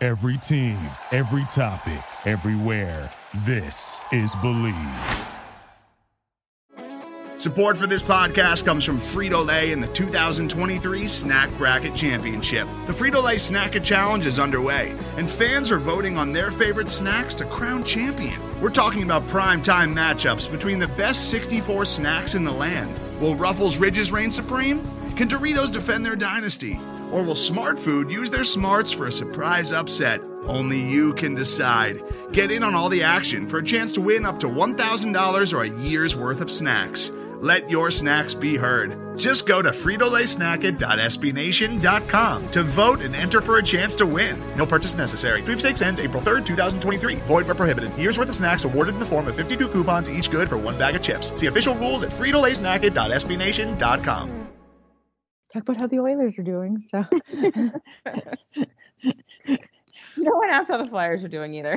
Every team, every topic, everywhere. This is Believe. Support for this podcast comes from Frito-Lay and the 2023 Snack Bracket Championship. The Frito-Lay Snack-It Challenge is underway, and fans are voting on their favorite snacks to crown champion. We're talking about prime-time matchups between the best 64 snacks in the land. Will Ruffles Ridges reign supreme? Can Doritos defend their dynasty? Or will Smart Food use their smarts for a surprise upset? Only you can decide. Get in on all the action for a chance to win up to $1,000 or a year's worth of snacks. Let your snacks be heard. Just go to fritolaysnacket.sbnation.com to vote and enter for a chance to win. No purchase necessary. Sweepstakes ends April 3rd, 2023. Void where prohibited. Year's worth of snacks awarded in the form of 52 coupons, each good for one bag of chips. See official rules at fritolaysnacket.sbnation.com. Talk about how the Oilers are doing. So no one asked how the Flyers are doing either.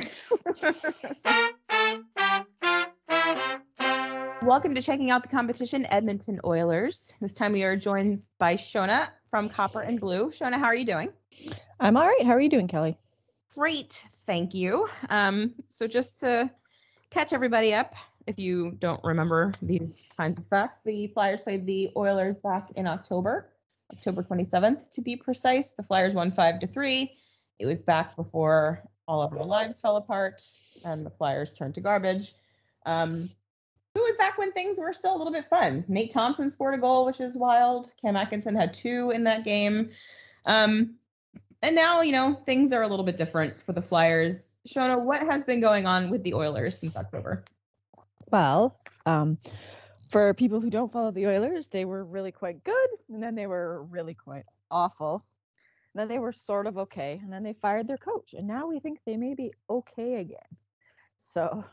Welcome to Checking Out the Competition, Edmonton Oilers. This time we are joined by Shona from Copper and Blue. Shona, how are you doing? I'm all right. How are you doing, Kelly? Great, thank you. So just to catch everybody up, if you don't remember these kinds of facts, the Flyers played the Oilers back in October 27th to be precise. The Flyers won 5-3. It was back before all of our lives fell apart and the Flyers turned to garbage. It was back when things were still a little bit fun. Nate Thompson scored a goal, which is wild. Cam Atkinson had 2 in that game. And now, things are a little bit different for the Flyers. Shona, what has been going on with the Oilers since October? Well, for people who don't follow the Oilers, they were really quite good, and then they were really quite awful. And then they were sort of okay, and then they fired their coach, and now we think they may be okay again. So,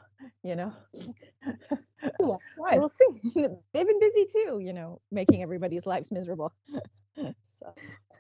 Why? we'll see. They've been busy too, making everybody's lives miserable. So.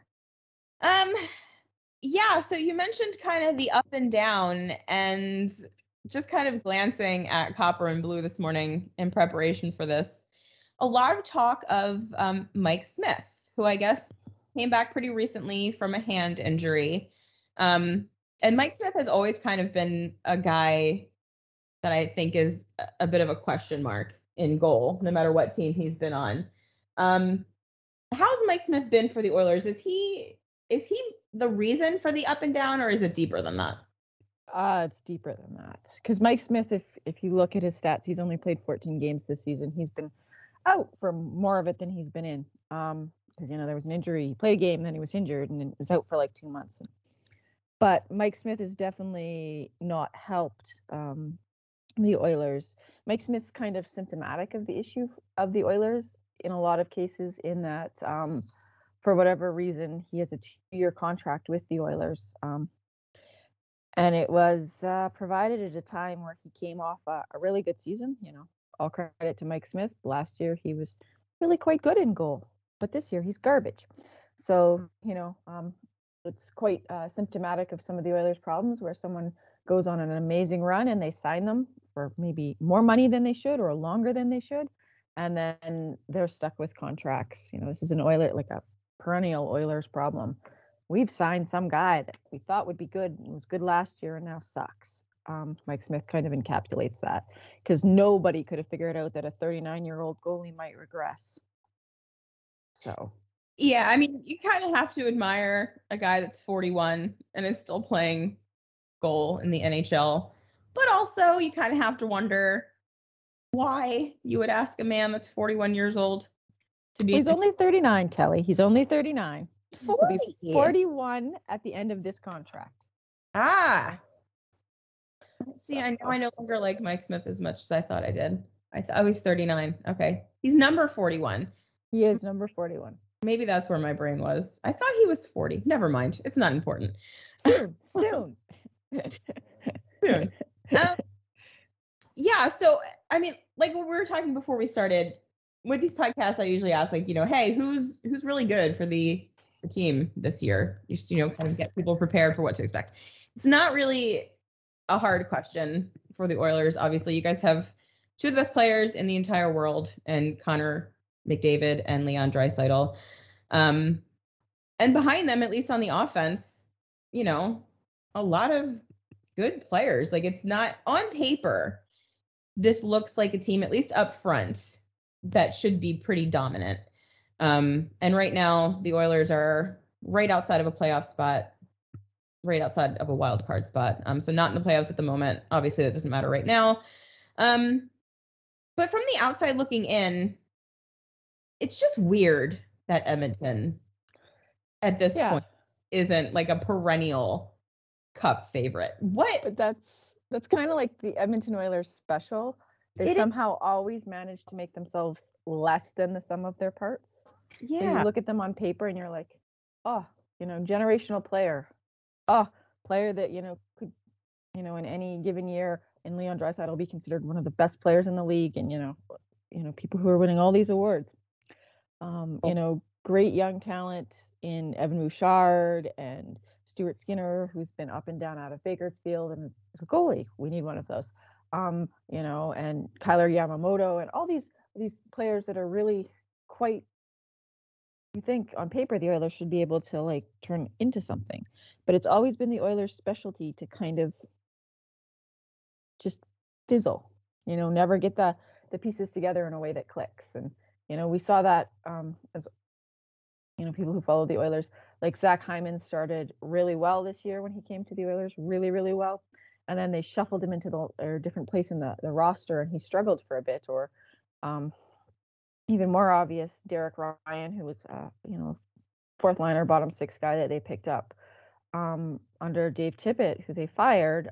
Yeah, so you mentioned kind of the up and down, and just kind of glancing at Copper and Blue this morning in preparation for this, a lot of talk of Mike Smith, who I guess came back pretty recently from a hand injury. And Mike Smith has always kind of been a guy that I think is a bit of a question mark in goal, no matter what team he's been on. How's Mike Smith been for the Oilers? Is he the reason for the up and down, or is it deeper than that? It's deeper than that. Because Mike Smith, if you look at his stats, he's only played 14 games this season. He's been out for more of it than he's been in. Because, there was an injury. He played a game, then he was injured, and then was out for like 2 months. But Mike Smith has definitely not helped the Oilers. Mike Smith's kind of symptomatic of the issue of the Oilers in a lot of cases, in that for whatever reason, he has a 2-year contract with the Oilers. And it was provided at a time where he came off a really good season. All credit to Mike Smith. Last year, he was really quite good in goal. But this year, he's garbage. So, it's quite symptomatic of some of the Oilers' problems, where someone goes on an amazing run and they sign them for maybe more money than they should or longer than they should. And then they're stuck with contracts. This is an Oiler, like a perennial Oilers problem. We've signed some guy that we thought would be good and was good last year and now sucks. Mike Smith kind of encapsulates that, because nobody could have figured out that a 39-year-old goalie might regress. So. Yeah, I mean, you kind of have to admire a guy that's 41 and is still playing goal in the NHL. But also, you kind of have to wonder why you would ask a man that's 41 years old to be. He's only 39, Kelly. He's only 39. 40. He'll be 41 at the end of this contract. See, I no longer like Mike Smith as much as I thought I did. I was 39. Okay. He's number 41. He is number 41. Maybe that's where my brain was. I thought he was 40. Never mind. It's not important. Soon. Yeah. So, I mean, like what we were talking before we started with these podcasts, I usually ask, like, hey, who's really good for the team this year? Just, kind of get people prepared for what to expect. It's not really a hard question for the Oilers. Obviously, you guys have 2 of the best players in the entire world, and Connor McDavid and Leon Draisaitl. And behind them, at least on the offense, a lot of good players. Like, it's not on paper. This looks like a team, at least up front, that should be pretty dominant. And right now, the Oilers are right outside of a playoff spot, right outside of a wild card spot. So not in the playoffs at the moment. Obviously, that doesn't matter right now. But from the outside looking in, it's just weird that Edmonton at this point isn't like a perennial Cup favorite. But that's kind of like the Edmonton Oilers special. They somehow always manage to make themselves less than the sum of their parts. Yeah. So you look at them on paper and you're like, oh, generational player. Oh, player that, could, in any given year in Leon Draisaitl will be considered one of the best players in the league. And, people who are winning all these awards. Great young talent in Evan Bouchard and Stuart Skinner, who's been up and down out of Bakersfield and is a goalie. We need one of those. And Kyler Yamamoto and all these players that are really quite, you think on paper the Oilers should be able to like turn into something. But it's always been the Oilers' specialty to kind of just fizzle, never get the pieces together in a way that clicks. And, we saw that as, people who follow the Oilers, like Zach Hyman started really well this year when he came to the Oilers, really, really well. And then they shuffled him into a different place in the roster and he struggled for a bit. Or even more obvious, Derek Ryan, who was, fourth liner, bottom six guy that they picked up under Dave Tippett, who they fired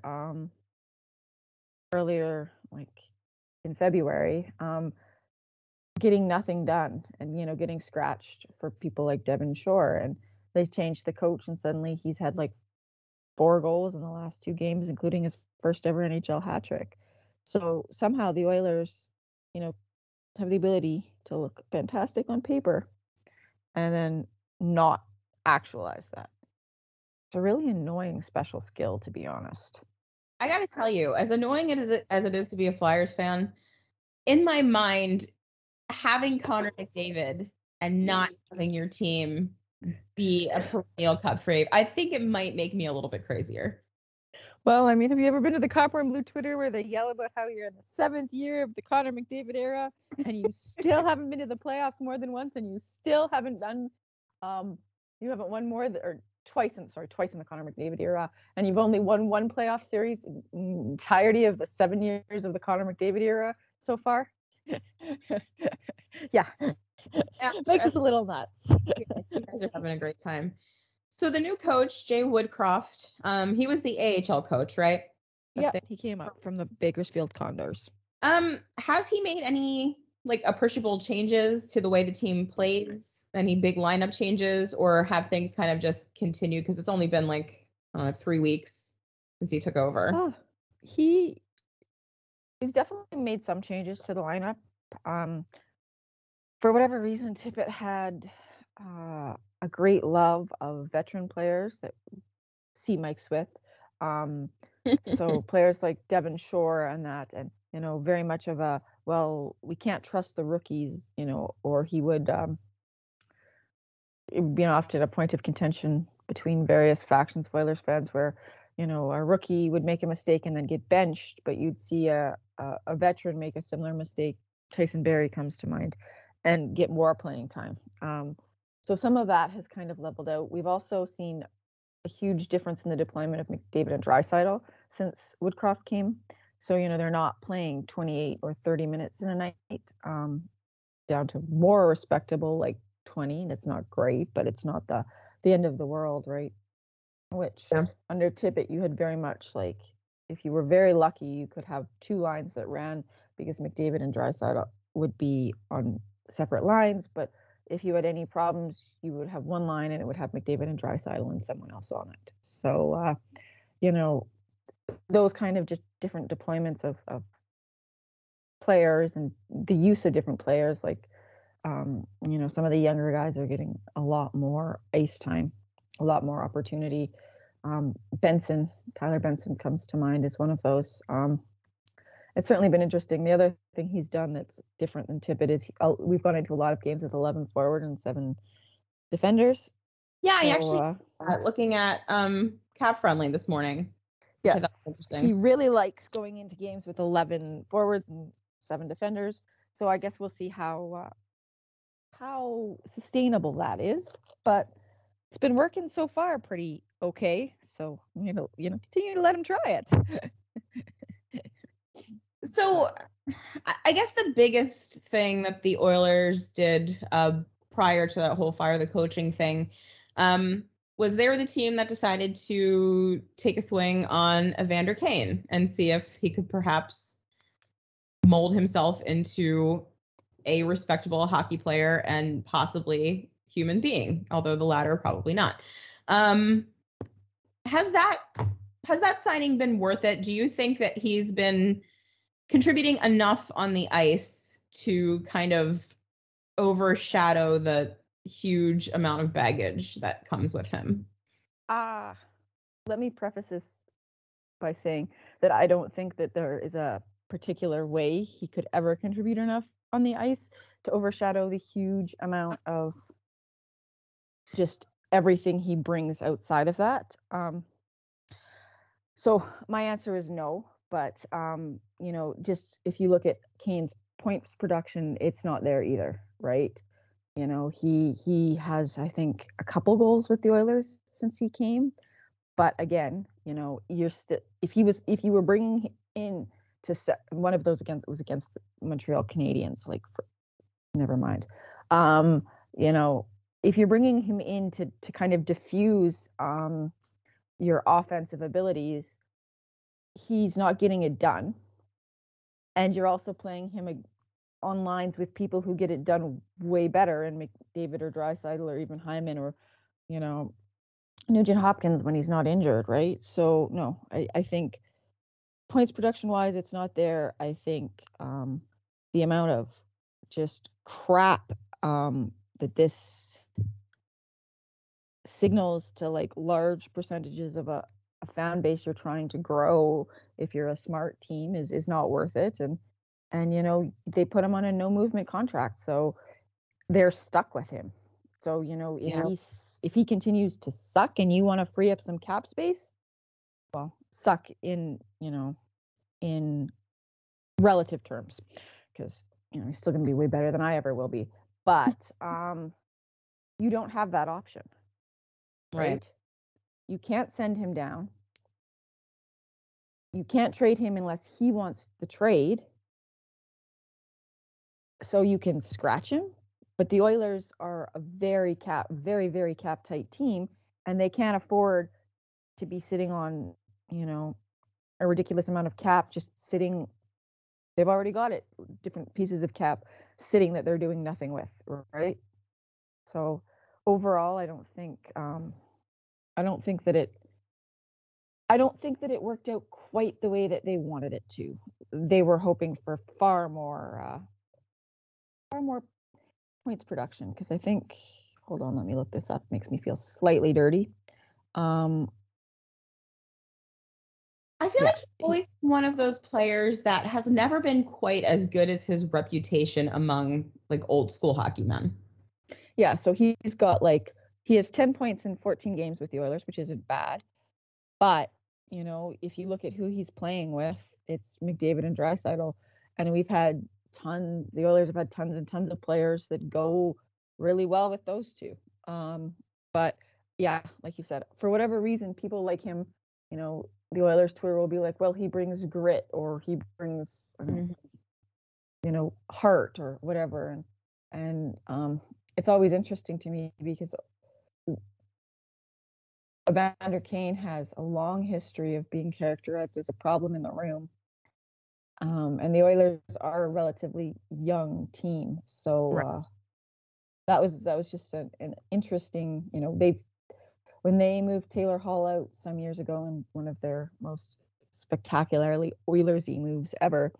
earlier, like in February, getting nothing done and, getting scratched for people like Devin Shore. And they changed the coach and suddenly he's had like 4 goals in the last 2 games, including his first ever NHL hat trick. So somehow the Oilers, have the ability to look fantastic on paper and then not actualize that. It's a really annoying special skill, to be honest. I got to tell you, as annoying as it is to be a Flyers fan, in my mind, having Connor McDavid and not having your team be a perennial Cup fave, I think it might make me a little bit crazier. Well, I mean, have you ever been to the Copper and Blue Twitter where they yell about how you're in the 7th year of the Connor McDavid era and you still haven't been to the playoffs more than once and you still haven't done, you haven't won twice in the Connor McDavid era, and you've only won 1 playoff series in the entirety of the 7 years of the Connor McDavid era so far? Yeah. Makes us a little nuts. You guys are having a great time. So the new coach, Jay Woodcroft, he was the AHL coach, right? Yeah, he came up from the Bakersfield Condors. Has he made any like appreciable changes to the way the team plays? Any big lineup changes, or have things kind of just continued? Because it's only been like 3 weeks since he took over. Oh, he's definitely made some changes to the lineup. For whatever reason, Tippett had a great love of veteran players that see Mike Smith. So players like Devin Shore and that, and, very much of a, well, we can't trust the rookies, or he would, often a point of contention between various factions of Oilers fans where, a rookie would make a mistake and then get benched, but you'd see a veteran make a similar mistake. Tyson Barrie comes to mind, and get more playing time. So some of that has kind of leveled out. We've also seen a huge difference in the deployment of McDavid and Draisaitl since Woodcroft came. So, they're not playing 28 or 30 minutes in a night, down to more respectable, like 20. And it's not great, but it's not the end of the world, right? Which under Tippett, you had very much like, if you were very lucky, you could have 2 lines that ran because McDavid and Draisaitl would be on separate lines. But if you had any problems, you would have 1 line and it would have McDavid and Draisaitl and someone else on it. So, those kind of just different deployments of players and the use of different players, like, some of the younger guys are getting a lot more ice time, a lot more opportunity. Tyler Benson comes to mind as one of those. It's certainly been interesting. The other thing he's done that's different than Tippett is we've gone into a lot of games with 11 forward and 7 defenders. Yeah, I actually looking at kind cap friendly this morning. Yeah, which I thought was interesting. he really likes going into games with 11 forwards and 7 defenders. So I guess we'll see how sustainable that is. But it's been working so far pretty okay. So continue to let him try it. So I guess the biggest thing that the Oilers did prior to that whole fire the coaching thing was they were the team that decided to take a swing on Evander Kane and see if he could perhaps mold himself into a respectable hockey player and possibly human being, although the latter probably not. Has that signing been worth it? Do you think that he's been contributing enough on the ice to kind of overshadow the huge amount of baggage that comes with him? Let me preface this by saying that I don't think that there is a particular way he could ever contribute enough on the ice to overshadow the huge amount of just everything he brings outside of that. So my answer is no, but just if you look at Kane's points production, it's not there either, right? He has, I think, a couple goals with the Oilers since he came, but again, you're still if you were bringing in to set one of those against the Montreal Canadiens, never mind. If you're bringing him in to kind of diffuse your offensive abilities, he's not getting it done. And you're also playing him on lines with people who get it done way better, and McDavid or Draisaitl or even Hyman or, Nugent Hopkins when he's not injured, right? So, no, I think points production-wise, it's not there. I think the amount of just crap that this signals to large percentages of a fan base you're trying to grow if you're a smart team is not worth it. And they put him on a no movement contract, so they're stuck with him. So if he continues to suck and you want to free up some cap space, well, suck in relative terms, because he's still going to be way better than I ever will be, but you don't have that option. Right. You can't send him down. You can't trade him unless he wants the trade. So you can scratch him, but the Oilers are a very, very cap tight team, and they can't afford to be sitting on, a ridiculous amount of cap just sitting. They've already got it, different pieces of cap sitting that they're doing nothing with, right? So overall, I don't think that it worked out quite the way that they wanted it to. They were hoping for far more points production, because I think, hold on, let me look this up. It makes me feel slightly dirty. I feel like he's always one of those players that has never been quite as good as his reputation among old school hockey men. Yeah, so he has 10 points in 14 games with the Oilers, which isn't bad. But, if you look at who he's playing with, it's McDavid and Draisaitl. And the Oilers have had tons and tons of players that go really well with those two. But yeah, like you said, for whatever reason, people like him, the Oilers Twitter will be like, well, he brings grit, or he brings, heart or whatever. And it's always interesting to me because Evander Kane has a long history of being characterized as a problem in the room. And the Oilers are a relatively young team. So right. That was just an interesting, when they moved Taylor Hall out some years ago in one of their most spectacularly Oilers-y moves ever,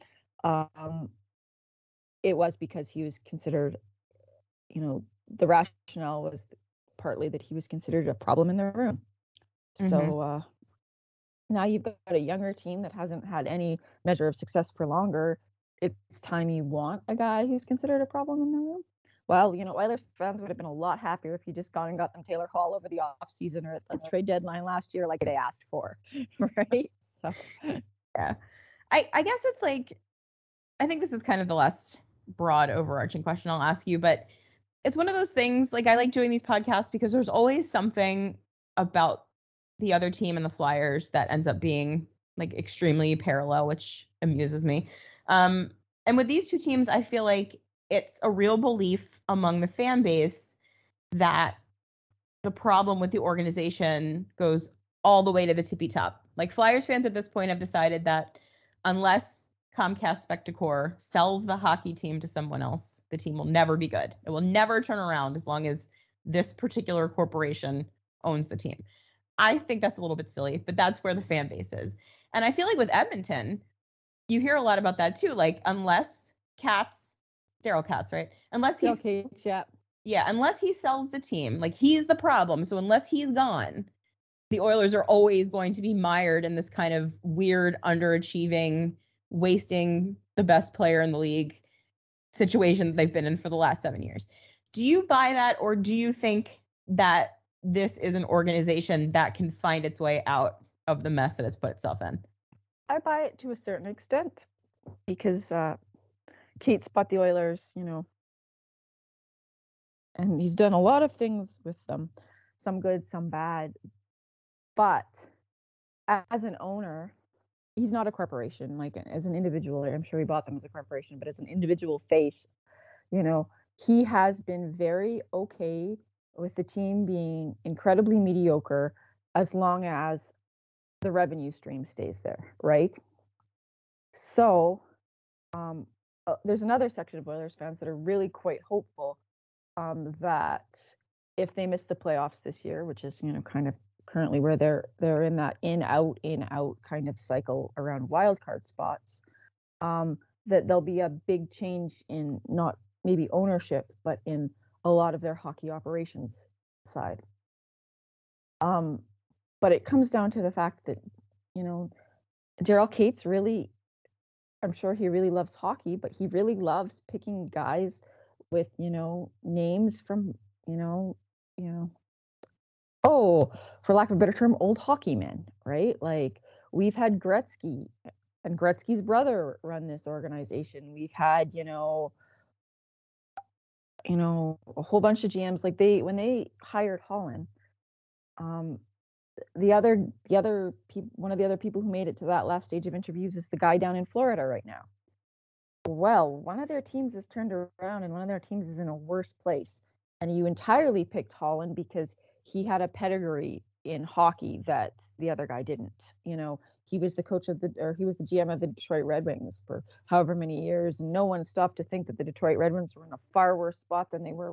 it was because he was considered, the rationale was partly that he was considered a problem in the room. Mm-hmm. So now you've got a younger team that hasn't had any measure of success for longer. It's time you want a guy who's considered a problem in the room. well, Oilers fans would have been a lot happier if you just gone and got them Taylor Hall over the offseason or at the trade deadline last year like they asked for, right? So, yeah. I guess it's like, I think this is kind of the last broad overarching question I'll ask you, but it's one of those things, like I like doing these podcasts because there's always something about the other team and the Flyers that ends up being like extremely parallel, which amuses me. And with these two teams, I feel like it's a real belief among the fan base that the problem with the organization goes all the way to the tippy top. Like Flyers fans at this point have decided that unless Comcast Spectacor sells the hockey team to someone else, the team will never be good. It will never turn around as long as this particular corporation owns the team. I think that's a little bit silly, but that's where the fan base is. And I feel like with Edmonton, you hear a lot about that too. Like unless Daryl Katz, right? Unless he's unless he sells the team, like he's the problem. So unless he's gone, the Oilers are always going to be mired in this kind of weird, underachieving, wasting the best player in the league situation that they've been in for the last 7 years. Do you buy that, or do you think that this is an organization that can find its way out of the mess that it's put itself in? I buy it to a certain extent because Keats bought the Oilers, and he's done a lot of things with them, some good, some bad. But as an owner, he's not a corporation. Like as an individual, I'm sure he bought them as a corporation, but as an individual face, he has been very okay with the team being incredibly mediocre as long as the revenue stream stays there, right? So there's another section of Oilers fans that are really quite hopeful that if they miss the playoffs this year, which is kind of currently where they're in that in out kind of cycle around wild card spots, that there'll be a big change in not maybe ownership, but in a lot of their hockey operations side. But it comes down to the fact that, Daryl Katz really, I'm sure he really loves hockey, but he really loves picking guys with, names from, for lack of a better term, old hockey men, right? Like we've had Gretzky and Gretzky's brother run this organization. We've had, a whole bunch of GMs. Like when they hired Holland, one of the other people who made it to that last stage of interviews is the guy down in Florida right now. Well, one of their teams has turned around and one of their teams is in a worse place. And you entirely picked Holland because he had a pedigree in hockey that the other guy didn't. He was the coach he was the GM of the Detroit Red Wings for however many years. And no one stopped to think that the Detroit Red Wings were in a far worse spot than they were,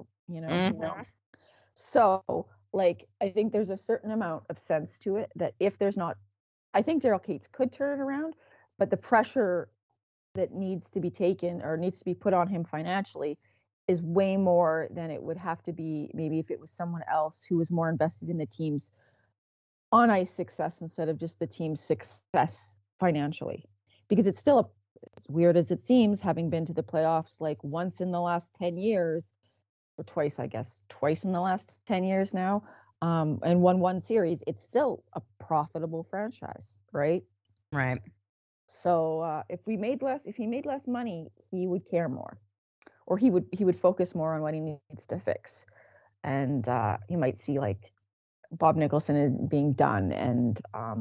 So, like, I think there's a certain amount of sense to it that if there's not, I think Daryl Katz could turn it around, but the pressure that needs to be taken or needs to be put on him financially is way more than it would have to be maybe if it was someone else who was more invested in the team's on ice success instead of just the team's success financially. Because it's still as weird as it seems, having been to the playoffs like once in the last 10 years, or twice in the last 10 years now, and won one series, it's still a profitable franchise, right? Right. So if he made less money, he would care more, or he would focus more on what he needs to fix, and you might see like Bob Nicholson is being done, and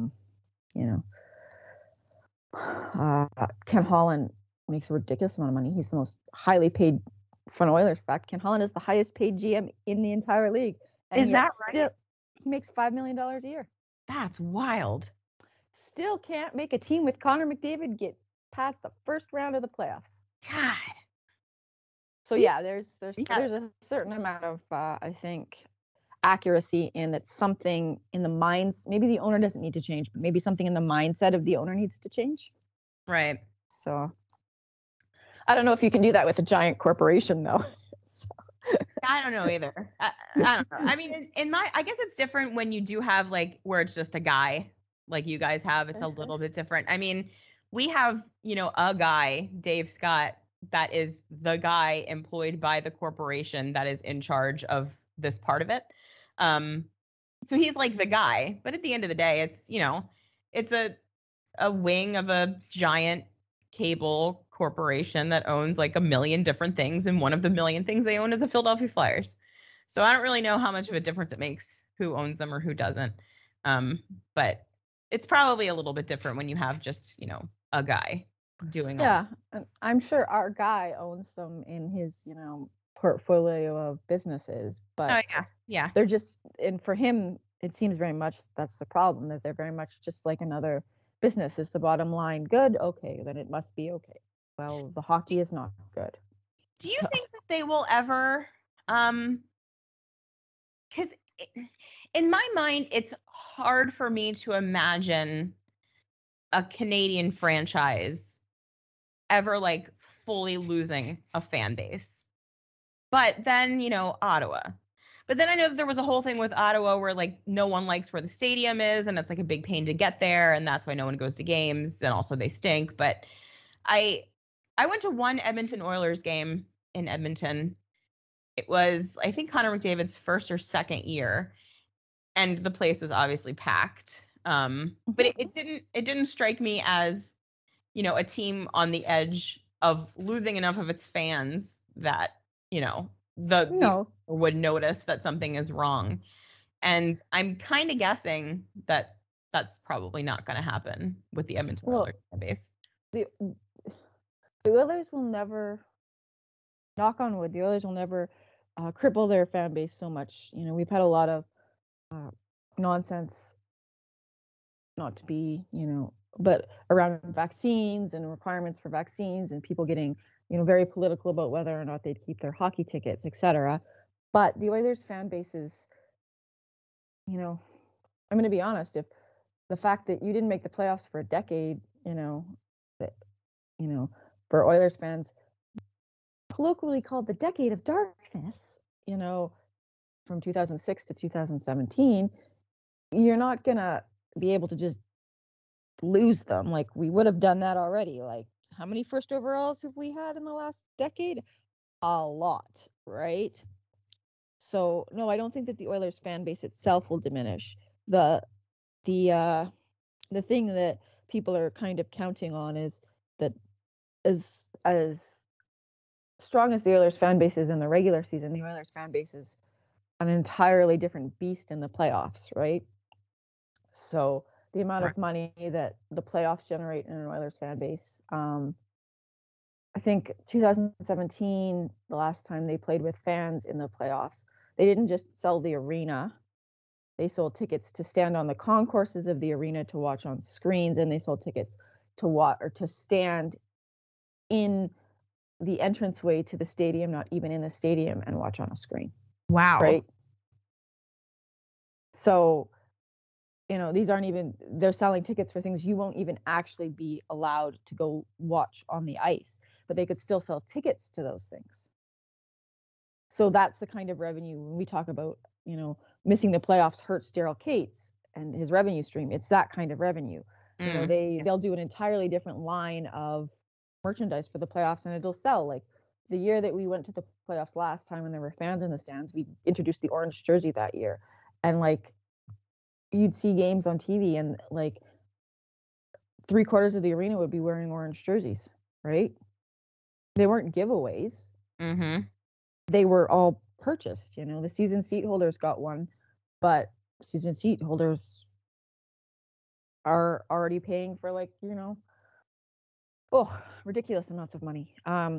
Ken Holland makes a ridiculous amount of money. He's the most highly paid front Oilers. In fact, Ken Holland is the highest paid GM in the entire league. And is that right? He makes $5 million a year. That's wild. Still can't make a team with Connor McDavid get past the first round of the playoffs. God. So yeah, there's a certain amount of I think accuracy in that. Something in the minds, maybe the owner doesn't need to change, but maybe something in the mindset of the owner needs to change. Right. So I don't know if you can do that with a giant corporation though. I don't know either. I don't know. I mean, I guess it's different when you do have like where it's just a guy like you guys have. It's a little bit different. I mean, we have, a guy, Dave Scott, that is the guy employed by the corporation that is in charge of this part of it. So he's like the guy, but at the end of the day, it's, you know, it's a wing of a giant cable corporation that owns like a million different things, and one of the million things they own is the Philadelphia Flyers. So I don't really know how much of a difference it makes who owns them or who doesn't. But it's probably a little bit different when you have just, you know, a guy doing Yeah, I'm sure our guy owns them in his, portfolio of businesses, but yeah. they're just, and for him, it seems very much that's the problem, that they're very much just like another business. Is the bottom line good? Okay, then it must be okay. Well, the hockey is not good. Do you think that they will ever, because in my mind, it's hard for me to imagine a Canadian franchise ever like fully losing a fan base. But then, you know, Ottawa. But then I know that there was a whole thing with Ottawa where like no one likes where the stadium is, and it's like a big pain to get there, and that's why no one goes to games, and also they stink. But I went to one Edmonton Oilers game in Edmonton. It was, I think, Connor McDavid's first or second year, and the place was obviously packed. But it didn't strike me as, you know, a team on the edge of losing enough of its fans that, you know, the would notice that something is wrong. And I'm kind of guessing that that's probably not going to happen with the Edmonton Oilers fan base. The Oilers will never, knock on wood, the Oilers will never cripple their fan base so much. You know, we've had a lot of nonsense, not to be, but around vaccines and requirements for vaccines, and people getting, very political about whether or not they'd keep their hockey tickets, etc. But the Oilers fan base is, I'm going to be honest, if the fact that you didn't make the playoffs for a decade, for Oilers fans, colloquially called the decade of darkness, from 2006 to 2017, you're not going to be able to just lose them. Like, we would have done that already. Like, how many first overalls have we had in the last decade? A lot, right? So no, I don't think that the Oilers fan base itself will diminish. The thing that people are kind of counting on is that as strong as the Oilers fan base is in the regular season, the Oilers fan base is an entirely different beast in the playoffs, right? So the amount of money that the playoffs generate in an Oilers fan base, I think 2017, the last time they played with fans in the playoffs, they didn't just sell the arena. They sold tickets to stand on the concourses of the arena to watch on screens, and they sold tickets to watch or to stand in the entranceway to the stadium, not even in the stadium, and watch on a screen. Wow. Right? So, these aren't even, they're selling tickets for things you won't even actually be allowed to go watch on the ice, but they could still sell tickets to those things. So that's the kind of revenue when we talk about, missing the playoffs hurts Daryl Cates and his revenue stream. It's that kind of revenue. They'll do an entirely different line of merchandise for the playoffs, and it'll sell. Like the year that we went to the playoffs last time when there were fans in the stands, we introduced the orange jersey that year. And like, you'd see games on TV and like 3/4 of the arena would be wearing orange jerseys, right? They weren't giveaways. Mm-hmm. They were all purchased. The season seat holders got one, but season seat holders are already paying for ridiculous amounts of money.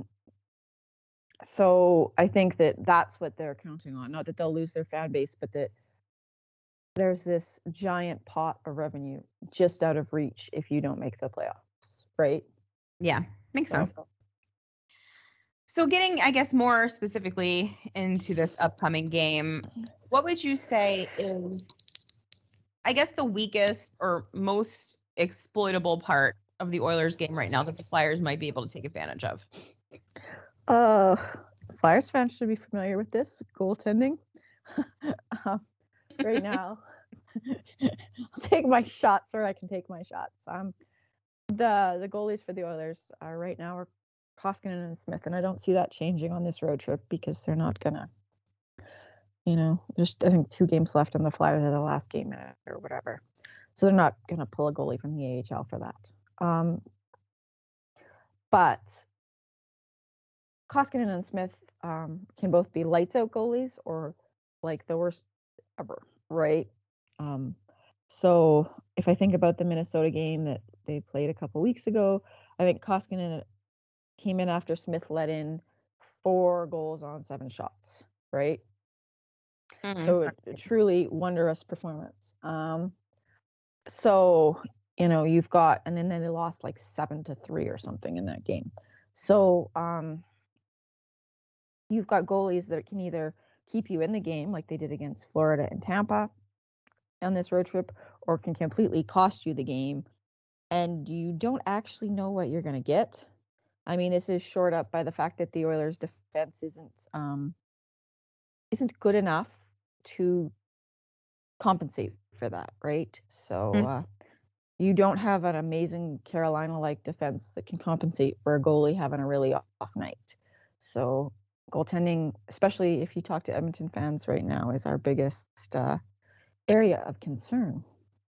So I think that that's what they're counting on. Not that they'll lose their fan base, but that there's this giant pot of revenue just out of reach if you don't make the playoffs, right? Yeah, makes sense. So getting, I guess, more specifically into this upcoming game, what would you say is, I guess, the weakest or most exploitable part of the Oilers game right now that the Flyers might be able to take advantage of? Flyers fans should be familiar with this, goaltending. Right now, I'll take my shots where I can take my shots. The goalies for the Oilers are right now are Koskinen and Smith, and I don't see that changing on this road trip because they're not gonna, just I think 2 games left on the Flyers are the last game or whatever, so they're not gonna pull a goalie from the AHL for that. But Koskinen and Smith can both be lights out goalies or like the worst ever, right? So if I think about the Minnesota game that they played a couple weeks ago, I think Koskinen came in after Smith let in 4 goals on 7 shots, right? So a truly wondrous performance. So, you've got, and then they lost like 7-3 or something in that game. So you've got goalies that can either keep you in the game like they did against Florida and Tampa on this road trip, or can completely cost you the game, and you don't actually know what you're going to get. I mean, this is shored up by the fact that the Oilers' defense isn't good enough to compensate for that, right? So you don't have an amazing Carolina-like defense that can compensate for a goalie having a really off night. So goaltending, especially if you talk to Edmonton fans right now, is our biggest area of concern.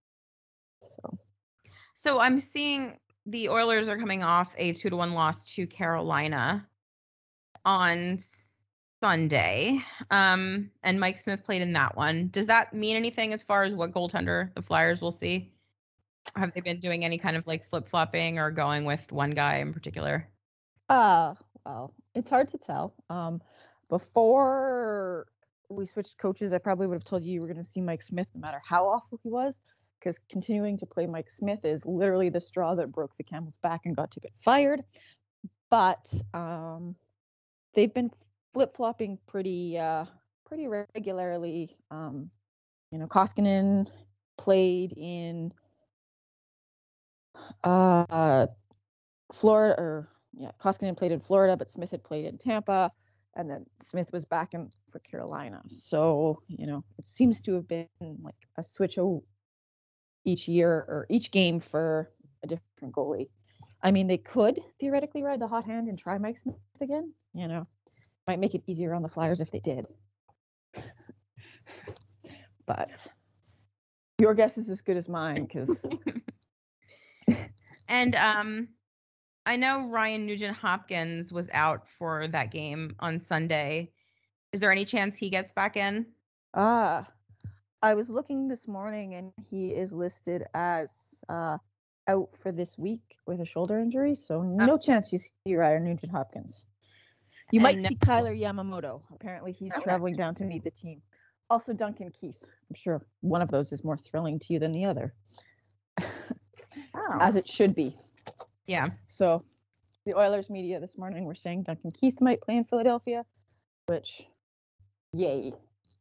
So I'm seeing the Oilers are coming off a 2-1 loss to Carolina on Sunday, and Mike Smith played in that one. Does that mean anything as far as what goaltender the Flyers will see? Have they been doing any kind of like flip-flopping or going with one guy in particular? Well, it's hard to tell. Before we switched coaches, I probably would have told you were going to see Mike Smith no matter how awful he was, because continuing to play Mike Smith is literally the straw that broke the camel's back and got Tippett fired. But they've been flip-flopping pretty regularly. Koskinen played in Florida, Koskinen played in Florida, but Smith had played in Tampa, and then Smith was back in for Carolina. So, it seems to have been like a switch each year or each game for a different goalie. I mean, they could theoretically ride the hot hand and try Mike Smith again. Might make it easier on the Flyers if they did. But your guess is as good as mine, because. And I know Ryan Nugent-Hopkins was out for that game on Sunday. Is there any chance he gets back in? I was looking this morning, and he is listed as out for this week with a shoulder injury, so no chance you see Ryan Nugent-Hopkins. You might see Kyler Yamamoto. Apparently, he's traveling down to meet the team. Also, Duncan Keith. I'm sure one of those is more thrilling to you than the other. As it should be. Yeah. So the Oilers media this morning were saying Duncan Keith might play in Philadelphia, which, yay.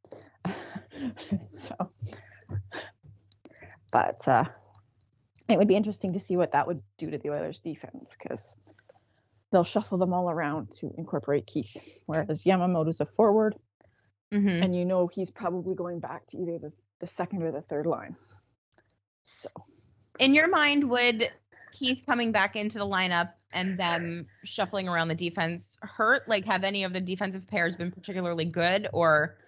But it would be interesting to see what that would do to the Oilers defense, because they'll shuffle them all around to incorporate Keith, whereas Yamamoto's a forward, and he's probably going back to either the second or the third line. So, in your mind, would Keith coming back into the lineup and them shuffling around the defense hurt? Like, have any of the defensive pairs been particularly good, or?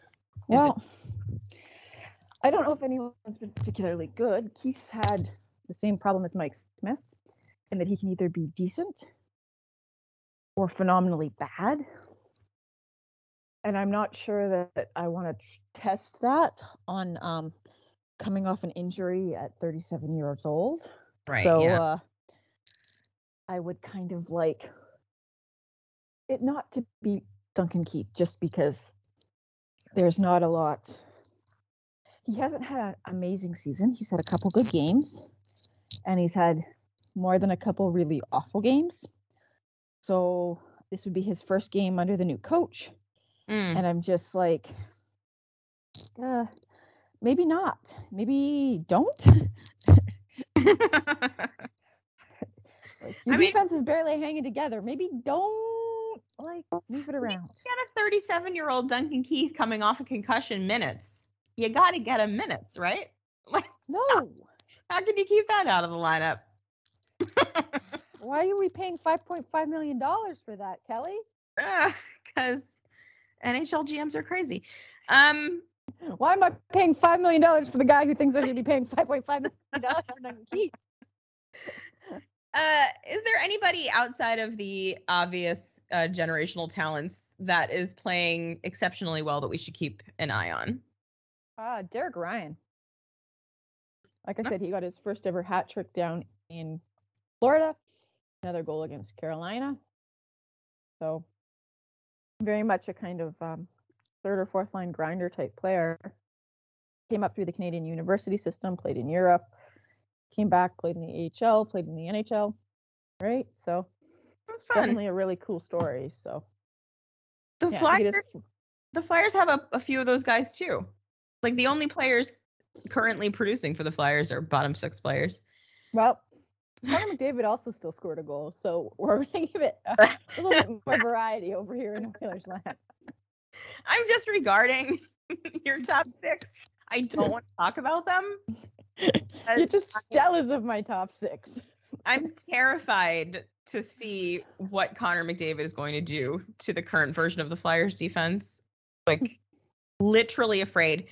I don't know if anyone's been particularly good. Keith's had the same problem as Mike Smith, in that he can either be decent or phenomenally bad. And I'm not sure that I want to test that on coming off an injury at 37 years old. Right. So I would kind of like it not to be Duncan Keith, just because there's not a lot. He hasn't had an amazing season. He's had a couple good games, and he's had more than a couple really awful games. So this would be his first game under the new coach. And I'm just like, maybe not. Maybe don't. Your defense is barely hanging together. Maybe don't move it around. You got a 37-year-old Duncan Keith coming off of concussion minutes. You got to get him minutes, right? No. How can you keep that out of the lineup? Why are we paying $5.5 million for that, Kelly? Because NHL GMs are crazy. Why am I paying $5 million for the guy who thinks I should be paying $5.5 million for Duncan Keith? Is there anybody outside of the obvious generational talents that is playing exceptionally well that we should keep an eye on? Derek Ryan. Like I said, he got his first ever hat trick down in Florida. Another goal against Carolina. So very much a kind of third or fourth line grinder type player. Came up through the Canadian university system, played in Europe, came back, played in the AHL, played in the NHL. Right? So definitely a really cool story. So the Flyers have a few of those guys too. Like the only players currently producing for the Flyers are bottom six players. Well, Connor McDavid also still scored a goal, so we're going to give it a little bit more variety over here in Oilers land. I'm disregarding your top six. I don't want to talk about them. You're just jealous of my top six. I'm terrified to see what Connor McDavid is going to do to the current version of the Flyers defense. Like, literally afraid.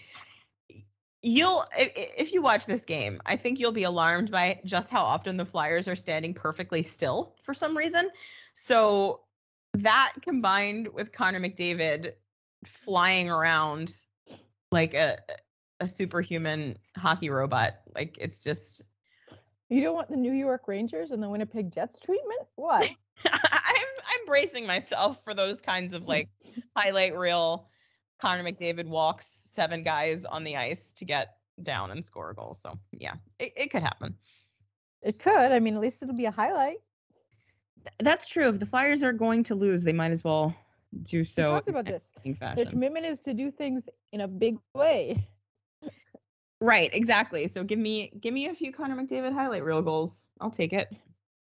If you watch this game, I think you'll be alarmed by just how often the Flyers are standing perfectly still for some reason. So that combined with Connor McDavid flying around like a superhuman hockey robot, like it's just. You don't want the New York Rangers and the Winnipeg Jets treatment? What? I'm bracing myself for those kinds of like highlight reel. Connor McDavid walks 7 guys on the ice to get down and score a goal. So yeah, it could happen. It could. I mean, at least it'll be a highlight. That's true. If the Flyers are going to lose, they might as well do so. We talked about this. Their commitment is to do things in a big way. Right, exactly. So give me a few Connor McDavid highlight reel goals. I'll take it.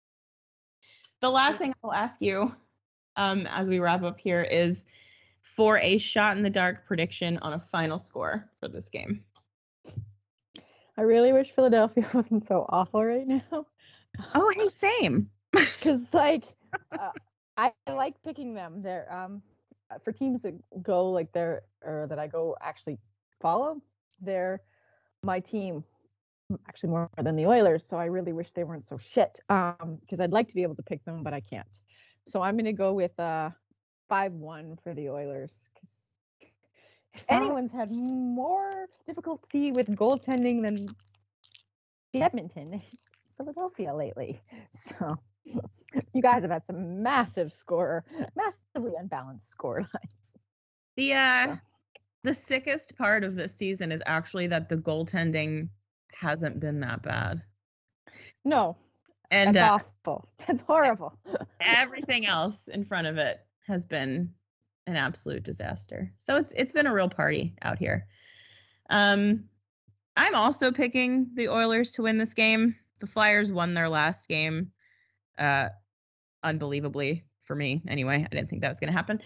The last thing I'll ask you, as we wrap up here, is for a shot in the dark prediction on a final score for this game. I really wish Philadelphia wasn't so awful right now. Oh, hey, same. Because I like picking them. They're for teams that go like that I go actually follow. They're my team, actually more than the Oilers. So I really wish they weren't so shit. Because I'd like to be able to pick them, but I can't. So I'm going to go with 5-1 for the Oilers. Because if anyone's had more difficulty with goaltending than Edmonton, Philadelphia lately. So you guys have had some massively unbalanced score lines. The sickest part of this season is actually that the goaltending hasn't been that bad. No. And that's awful. That's horrible. Everything else in front of it has been an absolute disaster. So it's been a real party out here. I'm also picking the Oilers to win this game. The Flyers won their last game. Unbelievably for me. Anyway, I didn't think that was going to happen.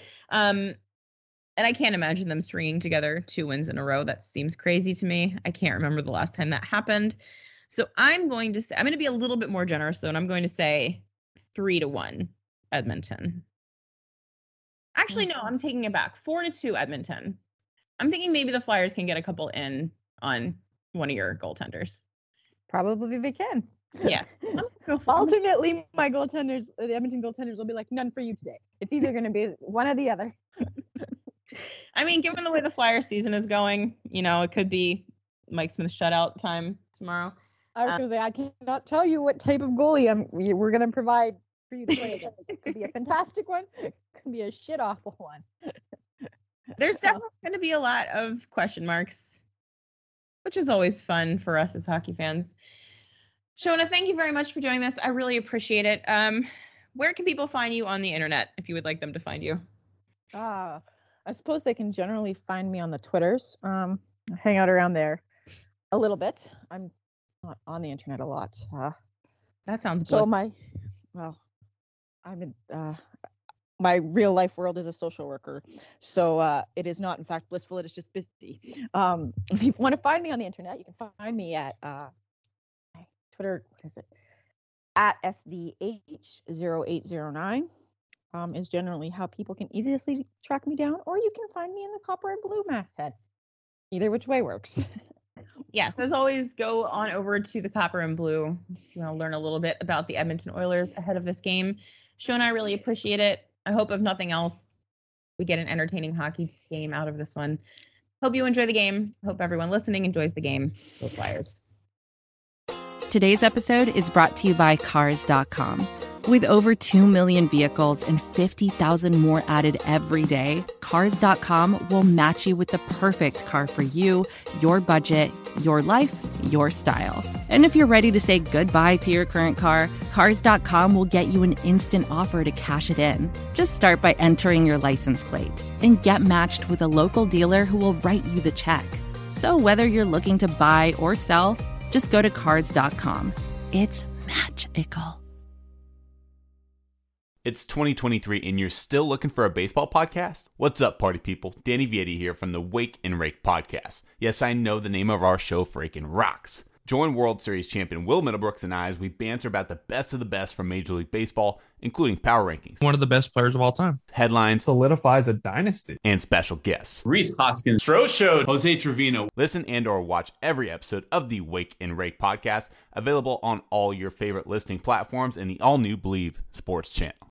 And I can't imagine them stringing together 2 wins in a row. That seems crazy to me. I can't remember the last time that happened. So I'm going to be a little bit more generous though, and I'm going to say 3-1 Edmonton. Actually, no, I'm taking it back. 4-2 Edmonton. I'm thinking maybe the Flyers can get a couple in on one of your goaltenders. Probably they can. Yeah. Alternately, my goaltenders, the Edmonton goaltenders, will be like, none for you today. It's either going to be one or the other. I mean, given the way the Flyers season is going, it could be Mike Smith shutout time tomorrow. I was going to say, I cannot tell you what type of goalie we're going to provide for you to play against. It could be a fantastic one. It could be a shit awful one. There's definitely going to be a lot of question marks, which is always fun for us as hockey fans. Shona, thank you very much for doing this. I really appreciate it. Where can people find you on the internet if you would like them to find you? I suppose they can generally find me on the Twitters. I hang out around there a little bit. I'm not on the internet a lot. That sounds so bliss. my real life world is a social worker, so it is not in fact blissful. It is just busy. If you want to find me on the internet, you can find me at my Twitter. What is it? at SDH0809 is generally how people can easily track me down, or you can find me in the Copper and Blue masthead. Either which way works. Yes, as always, go on over to the Copper and Blue if you want to learn a little bit about the Edmonton Oilers ahead of this game. Sho and I really appreciate it. I hope, if nothing else, we get an entertaining hockey game out of this one. Hope you enjoy the game. Hope everyone listening enjoys the game. Go Flyers. Today's episode is brought to you by Cars.com. With over 2 million vehicles and 50,000 more added every day, Cars.com will match you with the perfect car for you, your budget, your life, your style. And if you're ready to say goodbye to your current car, Cars.com will get you an instant offer to cash it in. Just start by entering your license plate and get matched with a local dealer who will write you the check. So whether you're looking to buy or sell, just go to Cars.com. It's magical. It's 2023 and you're still looking for a baseball podcast? What's up, party people? Danny Vietti here from the Wake and Rake podcast. Yes, I know the name of our show freaking rocks. Join World Series champion Will Middlebrooks and I as we banter about the best of the best from Major League Baseball, including power rankings, one of the best players of all time, headlines, solidifies a dynasty, and special guests. Rhys Hoskins, Stro Show, Jose Trevino. Listen and or watch every episode of the Wake and Rake podcast, available on all your favorite listening platforms and the all-new Believe Sports channel.